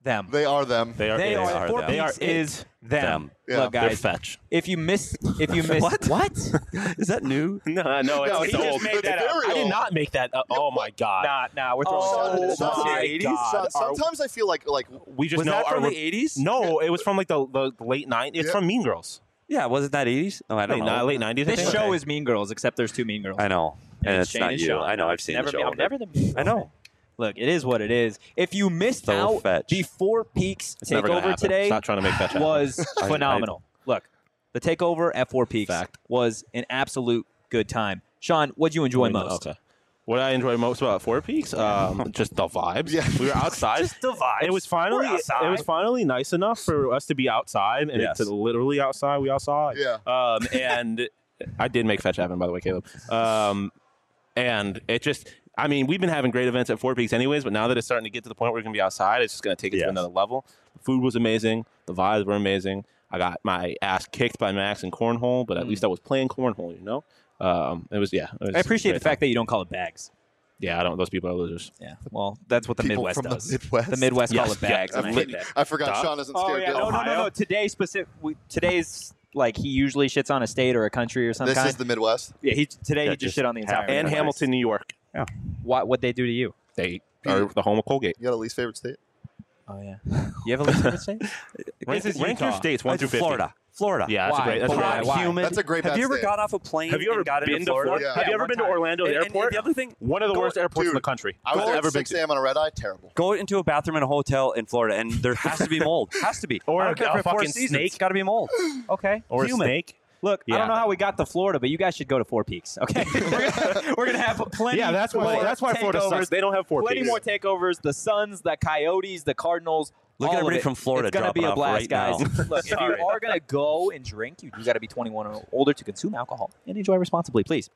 them. They are them. They are. They are. are Four them. They are Peaks is them. Yeah. Look, They're guys. fetch. If you miss, What? Is that new? No, he it's just old. made that up. I did not make that up. Oh my god. Nah, we're throwing Oh, shots. my God. Sometimes I feel like We just Was know that from our the 80s? No, it was from like the late 90s. It's Yeah. from Mean Girls. Yeah, wasn't that 80s? Oh, I don't know. Late 90s. I This think. show is Mean Girls, except there's 2 Mean Girls. I know. And it's Shane not and you. Sean. I know. I've seen never the show. I'm never the Mean Girls. I know. Look, it is what it is. If you missed So out, fetch. the Four Peaks It's never gonna takeover happen. today Stop trying to make fetch happen. was I- phenomenal. Look, the takeover at Four Peaks Fact. was an absolute good time. Sean, what'd you enjoy most? Okay. What I enjoy most about Four Peaks, just the vibes. Yeah. We were outside. Just the vibes. It was finally We're outside. nice enough for us to be outside, and Yes. to literally outside. We outside. Yeah. And I did make fetch happen, by the way, Caleb. And it just, I mean, we've been having great events at Four Peaks anyways, but now that it's starting to get to the point where we're going to be outside, it's just going to take it to Yes. another level. The food was amazing. The vibes were amazing. I got my ass kicked by Max in cornhole, but at least I was playing cornhole, you know? It was, yeah. It was I appreciate a the great fact that you don't call it bags. time. Yeah, I don't, those people are losers. Yeah, well, that's what the People Midwest from the does. Midwest? The Midwest call Yes. it bags, Yeah, and I hate that. I forgot Duh. Sean isn't Oh scared. yeah, to no. Today's like he usually shits on a state or a country or some This kind. is the Midwest. Yeah, today Yeah, he just just shit on the entire. half- And Midwest. Hamilton, New York. What they do to you? They are the home of Colgate. You got a least favorite state? Oh yeah, you have a least favorite state? Rank This is your Utah. states 1 through 50. Florida. Yeah, that's Why? a great. That's a Why? great. Why? Humid. That's a great Have bad you ever state. got off a plane Have you ever and got been into to Florida? Florida? Have you ever one been to time. Orlando And Airport? the other thing, One of the worst airports in the Dude, country. I was I've there ever at been 6 to. a.m. on a red eye. Terrible. go into a bathroom in a hotel in Florida, and there has to be mold. Has to be. Or I don't care a if it's Four fucking Seasons. snake. Got to be mold. Okay, Or a Human. snake. Look, I Yeah. don't know how we got to Florida, but you guys should go to Four Peaks. Okay, we're gonna have plenty. Yeah, that's why. more That's why Florida takeovers. sucks. They don't have Four Plenty Peaks. more takeovers. The Suns, the Coyotes, the Cardinals. Look at all of everybody it. from Florida It's gonna be dropping a off blast, right guys. now. Look, if you Sorry. are gonna go and drink, you do got to be 21 or older to consume alcohol and enjoy responsibly, please.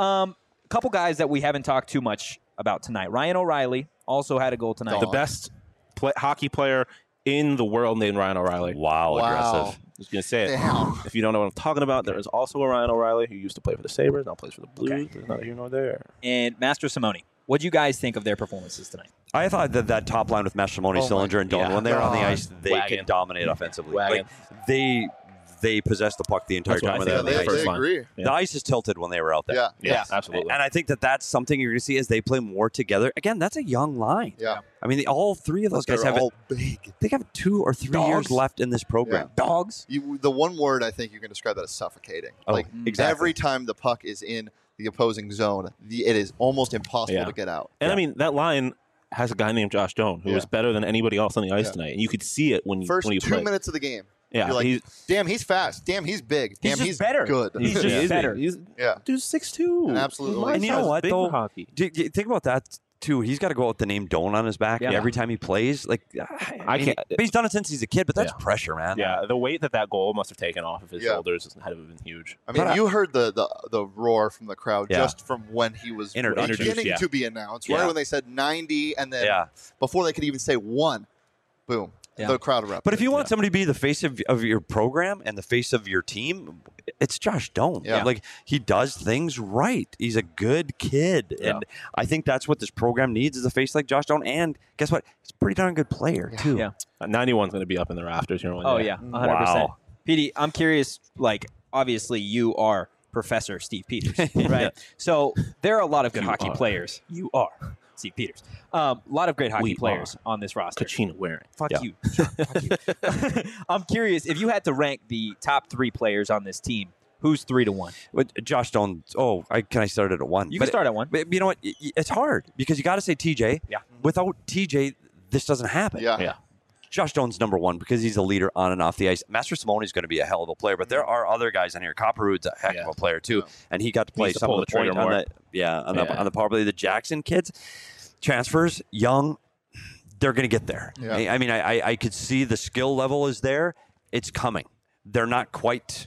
Couple guys that we haven't talked too much about tonight. Ryan O'Reilly also had a goal tonight. The best hockey player in the world named Ryan O'Reilly. Wow, aggressive. I was going to say it. Damn. If you don't know what I'm talking about, there is also a Ryan O'Reilly who used to play for the Sabres, now plays for the Blues. Okay. There's neither here nor there. And Master Simone. What do you guys think of their performances tonight? I thought that top line with Mastroianni, Oh my Sillinger, and Dolan, yeah. when they were on the God. ice, they Wagon. could dominate offensively. Wagon. Like, they possessed the puck the entire That's what time I when they think. were on the They ice. Fun. agree. Yeah. The ice is tilted when they were out there. Yeah. Yeah, Yes. absolutely. And I think that's something you're going to see as they play more together. Again, that's a young line. Yeah. I mean, all three of those guys They're have all big. they have 2 or 3 Dogs. years left in this program. Dogs. The one word I think you can describe that as suffocating. Oh, like exactly. every time the puck is in the opposing zone, it is almost impossible Yeah. to get out. And I mean, that line has a guy named Josh Doan who Yeah. was better than anybody else on the ice Yeah. tonight. And you could see it when you First when you 2 played. minutes of the game. Yeah, You're like, he's- damn, he's fast. Damn, he's big. Damn, just he's better. good. He's just Yeah. better. He's, Yeah. dude's 6'2". An absolute elite. And you know what, Big though? for hockey. Think about that, too. He's got to go with the name Doan on his back Yeah. every time he plays. Like, I mean, can't- but he's done it since he's a kid, but that's Yeah. pressure, man. Yeah, the weight that goal must have taken off of his Yeah. shoulders had been huge. I mean, But you heard the roar from the crowd Yeah. just from when he was Introduced, beginning yeah. to be announced. Yeah. Right when they said 90, and then Yeah. before they could even say 1, boom, Yeah. the crowd erupted. But if you want somebody to be the face of your program and the face of your team, it's Josh Doan. Yeah. Like, he does things right. He's a good kid. Yeah. And I think that's what this program needs is a face like Josh Doan. And guess what? He's a pretty darn good player, too. Yeah. 91's going to be up in the rafters here one Oh day. yeah, 100%. Wow. PD, I'm curious. Like, obviously, you are Professor Steve Peters, right? So there are a lot of good You hockey are. players. You are Steve Peters. A lot of great hockey We players on this roster. Kachina wearing. Fuck Yeah. you. Sean. Fuck you. I'm curious if you had to rank the top 3 players on this team. Who's 3 to 1? But Josh Doan, can I start it at 1? You can start at 1. But you know what? It's hard because you got to say TJ. Yeah. Without TJ, this doesn't happen. yeah. Yeah. Josh Doan's number 1 because he's a leader on and off the ice. Master Simone is going to be a hell of a player, but there are other guys on here. Copperwood's a heck of a player too, and he got to play Needs to some pull of the the trigger point on more. the on the power play. The Jackson kids, transfers, young, they're going to get there. Yeah. I mean, I could see the skill level is there. It's coming. They're not quite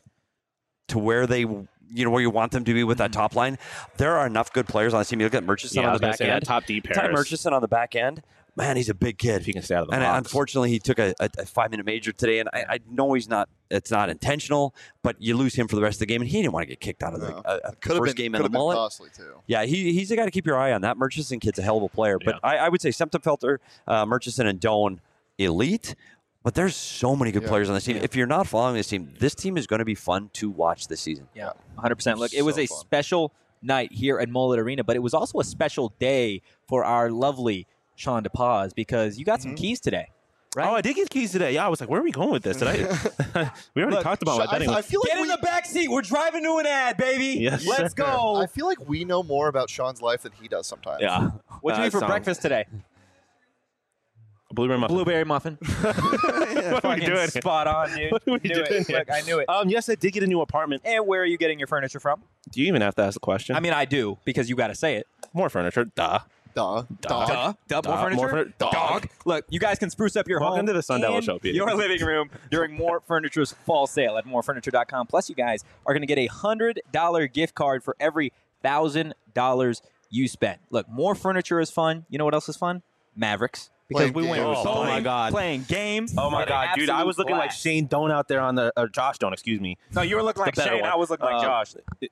to where they. Where you want them to be with that top line. There are enough good players on the team. You look at Murchison Yeah, I on was the gonna back say that end. top D pair Ty is- Murchison on the back end. Man, he's a big kid. If he can stay out of the And box. unfortunately, he took a 5-minute major today, and I know it's not intentional, but you lose him for the rest of the game, and he didn't want to get kicked out of the Could have first been, game could in the have been mullet. costly too. Yeah, he's a guy to keep your eye on. That Murchison kid's a hell of a player, but I would say Septemfelter, Murchison, and Doan elite, but there's so many good players on this team. If you're not following this team is going to be fun to watch this season. Yeah, 100%. Look, it was a special night here at Mullet Arena, but it was also a special day for our lovely Sean DePaz because you got some keys today. Right? Oh, I did get keys today. Yeah, I was like, where are we going with this today? We already talked about my betting. I feel like Get in the back seat. We're driving to an ad, baby. Yes, Let's go. I feel like we know more about Sean's life than he does sometimes. Yeah. What'd you eat for breakfast today? Blueberry muffin. Blueberry muffin. What are we doing? Spot on, dude. What are we Knew doing it. here? Look, I knew it. Yes, I did get a new apartment. And where are you getting your furniture from? Do you even have to ask the question? I mean, I do because you got to say it. More furniture. Duh. Duh. More furniture. Dog. Look, you guys can spruce up your home. Welcome to the Sun Devil and Show, Peter. Your living room during More Furniture's fall sale at morefurniture.com. Plus, you guys are going to get a $100 gift card for every $1,000 you spend. Look, More Furniture is fun. You know what else is fun? Mavericks. Because we went games. bowling, Oh my God. playing games. Oh my Had an God, dude! I was absolute looking like blast. Shane Doan out there on the Josh Doan. Excuse me. No, you were looking like The better Shane. one. I was looking like Josh.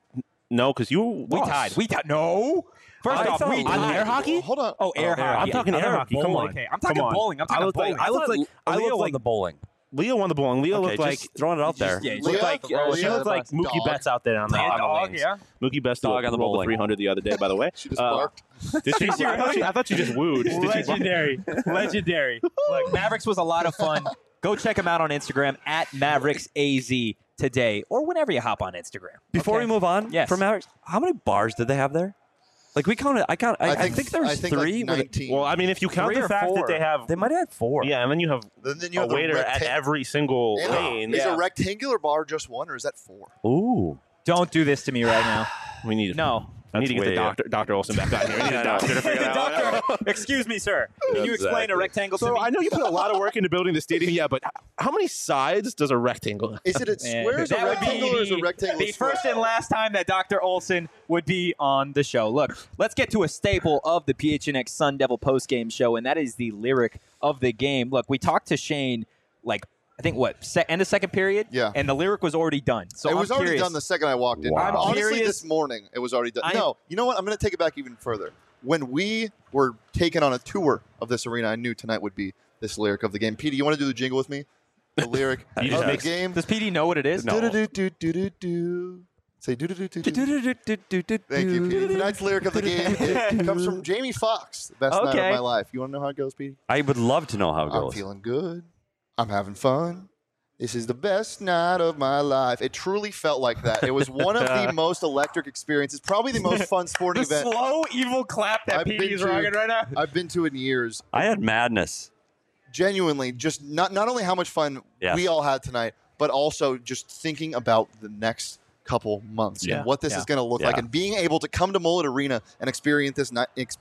No, because you We lost. tied. We tied. No. First I off, thought- we on tied. air hockey? Hold on. Oh, air hockey. I'm talking air hockey. Come on. Okay, I'm talking Come on. bowling. I'm talking I looked bowling. like Leo won the bowling. Leo won the bowling. Leo Okay, looked like just throwing it out there. Yeah, looked like she looked like Mookie Dog. Betts out there on the lanes. yeah. Mookie Betts Dog on the rolled bowling. 300 the other day, by the way. She just barked. Did she? I thought she just wooed. Did she bark? Legendary. Legendary. Look, Mavericks was a lot of fun. Go check them out on Instagram at MavericksAZ today or whenever you hop on Instagram. Before we move on Yes. from Mavericks, how many bars did they have there? Like we counted. I think there's three. Like 19. Well, I mean, if you count Three the or fact four. that they have, They might have had 4. yeah, and then you have Then you a have the waiter at every single lane. Is a rectangular bar just one, or is that 4? Ooh. Don't do this to me right now. We need No. I need to get the That's way- Dr. Olson back on here. We need a doctor to figure that out. Doctor, excuse me, sir. Can you explain a rectangle to So me? I know you put a lot of work into building the stadium, yeah, but how many sides does a rectangle have? Is it a square, is a That would be rectangle, or is a rectangle the square? first and last time that Dr. Olson would be on the show. Look, let's get to a staple of the PHNX Sun Devil postgame show, and that is the lyric of the game. Look, we talked to Shane, like, I think, end of second period? Yeah. And the lyric was already done. So it was I'm already curious. done the second I walked in. Wow. Honestly, Curious. this morning it was already done. I'm- No, you know what? I'm going to take it back even further. When we were taken on a tour of this arena, I knew tonight would be this lyric of the game. Petey, you want to do the jingle with me? The lyric of just the makes- game. Does PD know what it is? No. Do-do-do-do-do-do. Say do-do-do-do-do. Thank you, Petey. Tonight's lyric of the game it comes from Jamie Foxx. The best night Okay. of my life. You want to know how it goes, Petey? I would love to know how it I'm goes. feeling good. I'm having fun. This is the best night of my life. It truly felt like that. It was one of the most electric experiences, probably the most fun sporting The event slow, evil clap that I've been PD's to- rocking right now. I've been to in years. I had madness. Genuinely, just not only how much fun Yes. we all had tonight, but also just thinking about the next couple months Yeah. and what this Yeah. is going to look like, Yeah. and being able to come to Mullet Arena and experience this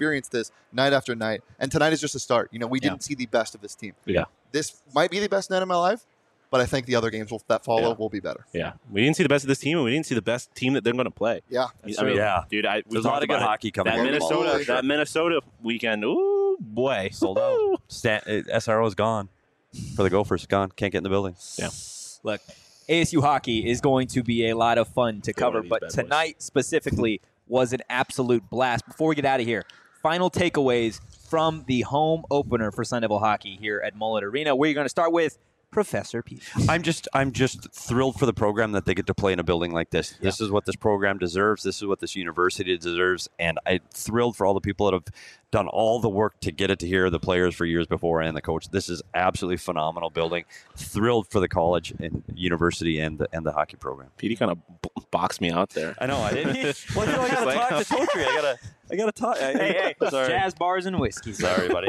night after night. And tonight is just a start. You know, we didn't see the best of this team. Yeah. This might be the best night of my life, but I think the other games that follow Yeah. will be better. Yeah. We didn't see the best of this team, and we didn't see the best team that they're going to play. Yeah. I mean, Yeah. dude, we There's a lot talked of good about it. hockey coming That out of the Minnesota weekend, ooh, boy. Sold out. SRO is gone. For the Gophers, gone. Can't get in the building. Yeah. Look, ASU hockey is going to be a lot of fun to cover, these but bad boys. tonight specifically was an absolute blast. Before we get out of here, final takeaways from the home opener for Sun Devil hockey here at Mullet Arena. We're going to start with Professor Pete. I'm just thrilled for the program that they get to play in a building like this. This is what this program deserves. This is what this university deserves. And I'm thrilled for all the people that have done all the work to get it to here, the players for years before and the coach. This is absolutely phenomenal building. Thrilled for the college and university and the hockey program. Petey kind of boxed me out there. I know. I didn't. Well, I got to talk to Totri. I got to talk. Hey, Sorry. jazz bars and whiskey. Sorry, buddy.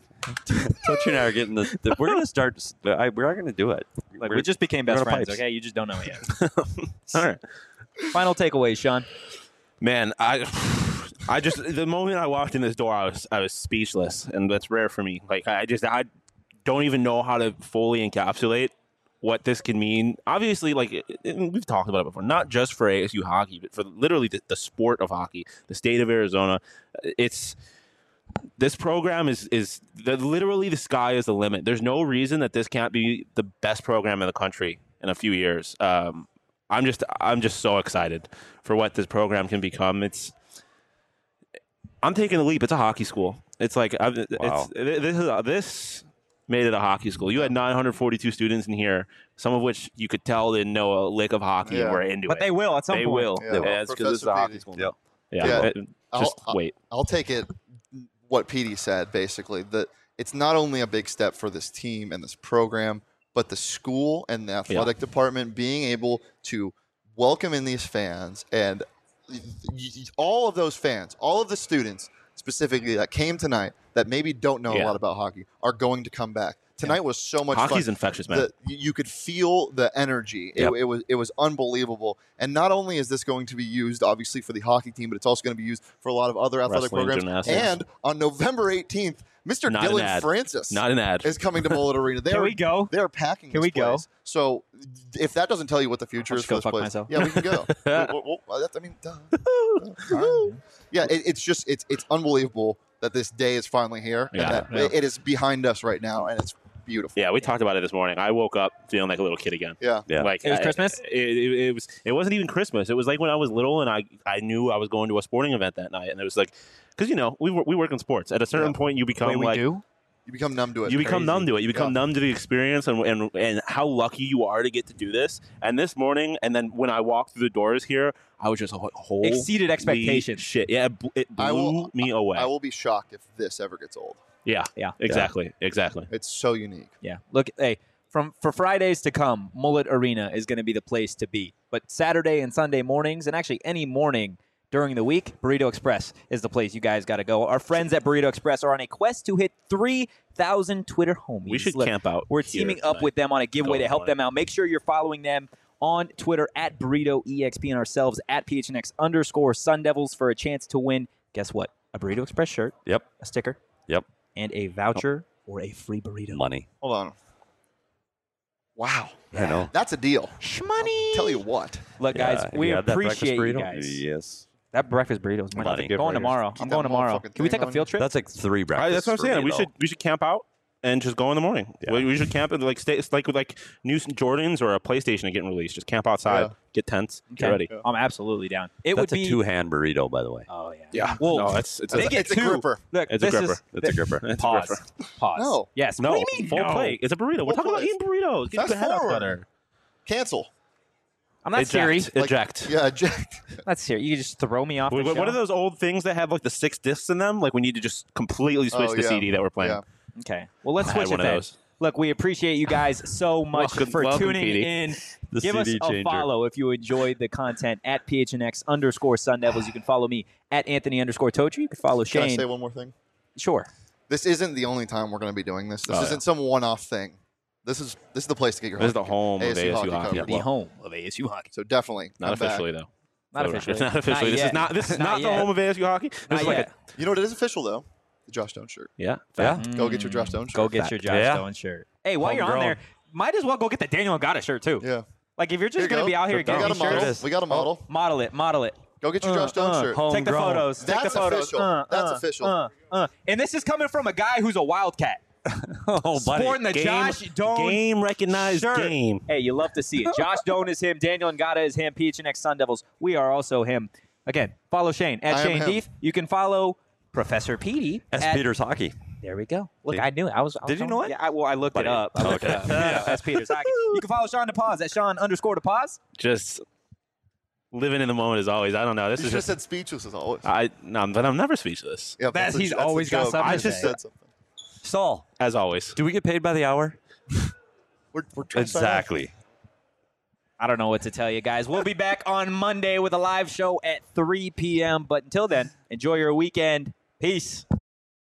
Totri and I are getting the we're going to start. We are going to do it. Like, we just became best we're gonna friends, pipes. okay? You just don't know it yet. All right. Final takeaways, Sean. Man, I just the moment I walked in this door, I was speechless, and that's rare for me. Like I don't even know how to fully encapsulate what this can mean. Obviously, like and we've talked about it before, not just for ASU hockey, but for literally the sport of hockey, the state of Arizona. This program is literally the sky is the limit. There's no reason that this can't be the best program in the country in a few years. I'm just so excited for what this program can become. I'm taking the leap. It's a hockey school. It's like Wow. this made it a hockey school. You had 942 students in here, some of which you could tell didn't know a lick of hockey and were into it. But they will at some They point. will. Yeah. Yeah, it's because it's a hockey school. Yep. Yeah. Just I'll, wait. I'll take it. What Petey said basically, that it's not only a big step for this team and this program, but the school and the athletic department being able to welcome in these fans, and all of those fans, all of the students specifically that came tonight that maybe don't know a lot about hockey are going to come back. Tonight was so much Hockey's fun. infectious, man. You could feel the energy. Yep. It was unbelievable. And not only is this going to be used, obviously, for the hockey team, but it's also going to be used for a lot of other athletic Wrestling, programs. gymnastics. And on November 18th, Mr. Not an Dylan ad. Francis Not an ad. is coming to Mullet Arena. Can we go? They're packing Can this we go? place. So if that doesn't tell you what the future I'll is just for go this fuck place, myself. yeah, we can go. Yeah, it's just it's unbelievable that this day is finally here. Yeah. And that it is behind us right now, and it's beautiful. Yeah, we talked about it this morning. I woke up feeling like a little kid again. Yeah. Like It was Christmas? It wasn't even Christmas. It was like when I was little and I knew I was going to a sporting event that night, and it was like, because we work in sports. At a certain point, you become we like do? You become numb to it. You become Crazy. numb to it. You become numb to the experience and how lucky you are to get to do this. And this morning, and then when I walked through the doors here, I was just holy Exceeded expectations. Shit, yeah, it blew me away. I will be shocked if this ever gets old. Yeah, exactly. It's so unique. Yeah. Look, hey, for Fridays to come, Mullet Arena is going to be the place to be. But Saturday and Sunday mornings, and actually any morning during the week, Burrito Express is the place you guys got to go. Our friends at Burrito Express are on a quest to hit 3,000 Twitter homies. We should Look, camp out. We're here teaming up tonight. with them on a giveaway Go to help on. them out. Make sure you're following them on Twitter at Burrito EXP and ourselves at PHNX_Sun Devils for a chance to win, guess what? A Burrito Express shirt. Yep. A sticker. Yep. And a voucher or a free burrito. Money. Hold on. Wow. I know. That's a deal. Shmoney. Tell you what. Look, guys, Yeah, we you had that breakfast appreciate you burrito? guys. Yes. That breakfast burrito is money. Money. Going tomorrow. Keep I'm that going tomorrow. motherfucking Can we thing take a on field trip? That's like 3 breakfasts. That's what I'm for saying. me, We should camp out and just go in the morning. Yeah. We should camp and stay. It's like with new Jordans or a PlayStation getting released. Just camp outside, Yeah. get tents, get Okay. ready. I'm absolutely down. It That's would be a 2-hand burrito, by the way. Oh yeah. Yeah. Well, No, it's they get it's a two. gripper. Look, It's a this gripper. is It's a gripper. It's a pause. gripper. Pause. No. Yes. No, What do you mean? full No. plate. It's a burrito. We're Full talking about plate. eating burritos. Get Fast your head out forward. better. Cancel. I'm not Eject. serious. Eject. Yeah, eject. Not serious. You can just throw me off. What the are show? those old things that have like the 6 discs in them? Like we need to just completely switch Oh, the yeah. CD that we're playing. Yeah. Okay. Well, let's I had switch one it of then. those. Look, we appreciate you guys so much for welcome, tuning Petey. in. The Give us CD a changer. follow if you enjoyed the content at PHNX_Sun Devils. You can follow me at Anthony_Totri. You can follow Can I Shane. say one more thing? Sure. This isn't the only time we're going to be doing this. This Oh, isn't some one-off thing. This is the place to get your This is the hockey- home of ASU hockey. covered. Yeah. The home of ASU hockey. So definitely Not come back. officially though. Not So, officially. Not officially. This yet. is not. This is not the yet. home of ASU hockey. This Not is like yet. You know what? It is official though. The Josh Stone shirt. Yeah. Yeah. Go get your Josh Stone shirt. Go get your Josh Yeah. Stone shirt. Hey, while you're on Homegrown. there, might as well go get the Daniel Ngata shirt too. Yeah. Like if you're Here just you going to go. be out here We getting got a these model. shirts, We got a model. model it. Go get your Josh Stone shirt. Take the Homegrown. photos. Take the That's photos. official. That's official. And this is coming from a guy who's a Wildcat. Oh, buddy. Sporting the Josh Doan Game recognized shirt. game. Hey, you love to see it. Josh Doan is him. Daniel Ngata is him. PHNX Sun Devils. We are also him. Again, follow Shane at I am Shane him. Deef. You can follow Professor Petey. S. at- Peters Hockey. There we go. Look, See? I knew it. I was Did you know it? Yeah, I looked it up. I looked it up. Yeah, S. Peters Hockey. You can follow Sean DePaz at Sean_DePaz. Just living in the moment as always. I don't know. This You is should have just. said speechless as always. But I'm never speechless. Yeah, That's- a- he's a always got joke. something I to just say. said something. Saul, As always. do we get paid by the hour? We're trying to sign off. Exactly. I don't know what to tell you guys. We'll be back on Monday with a live show at 3 p.m. But until then, enjoy your weekend. Peace.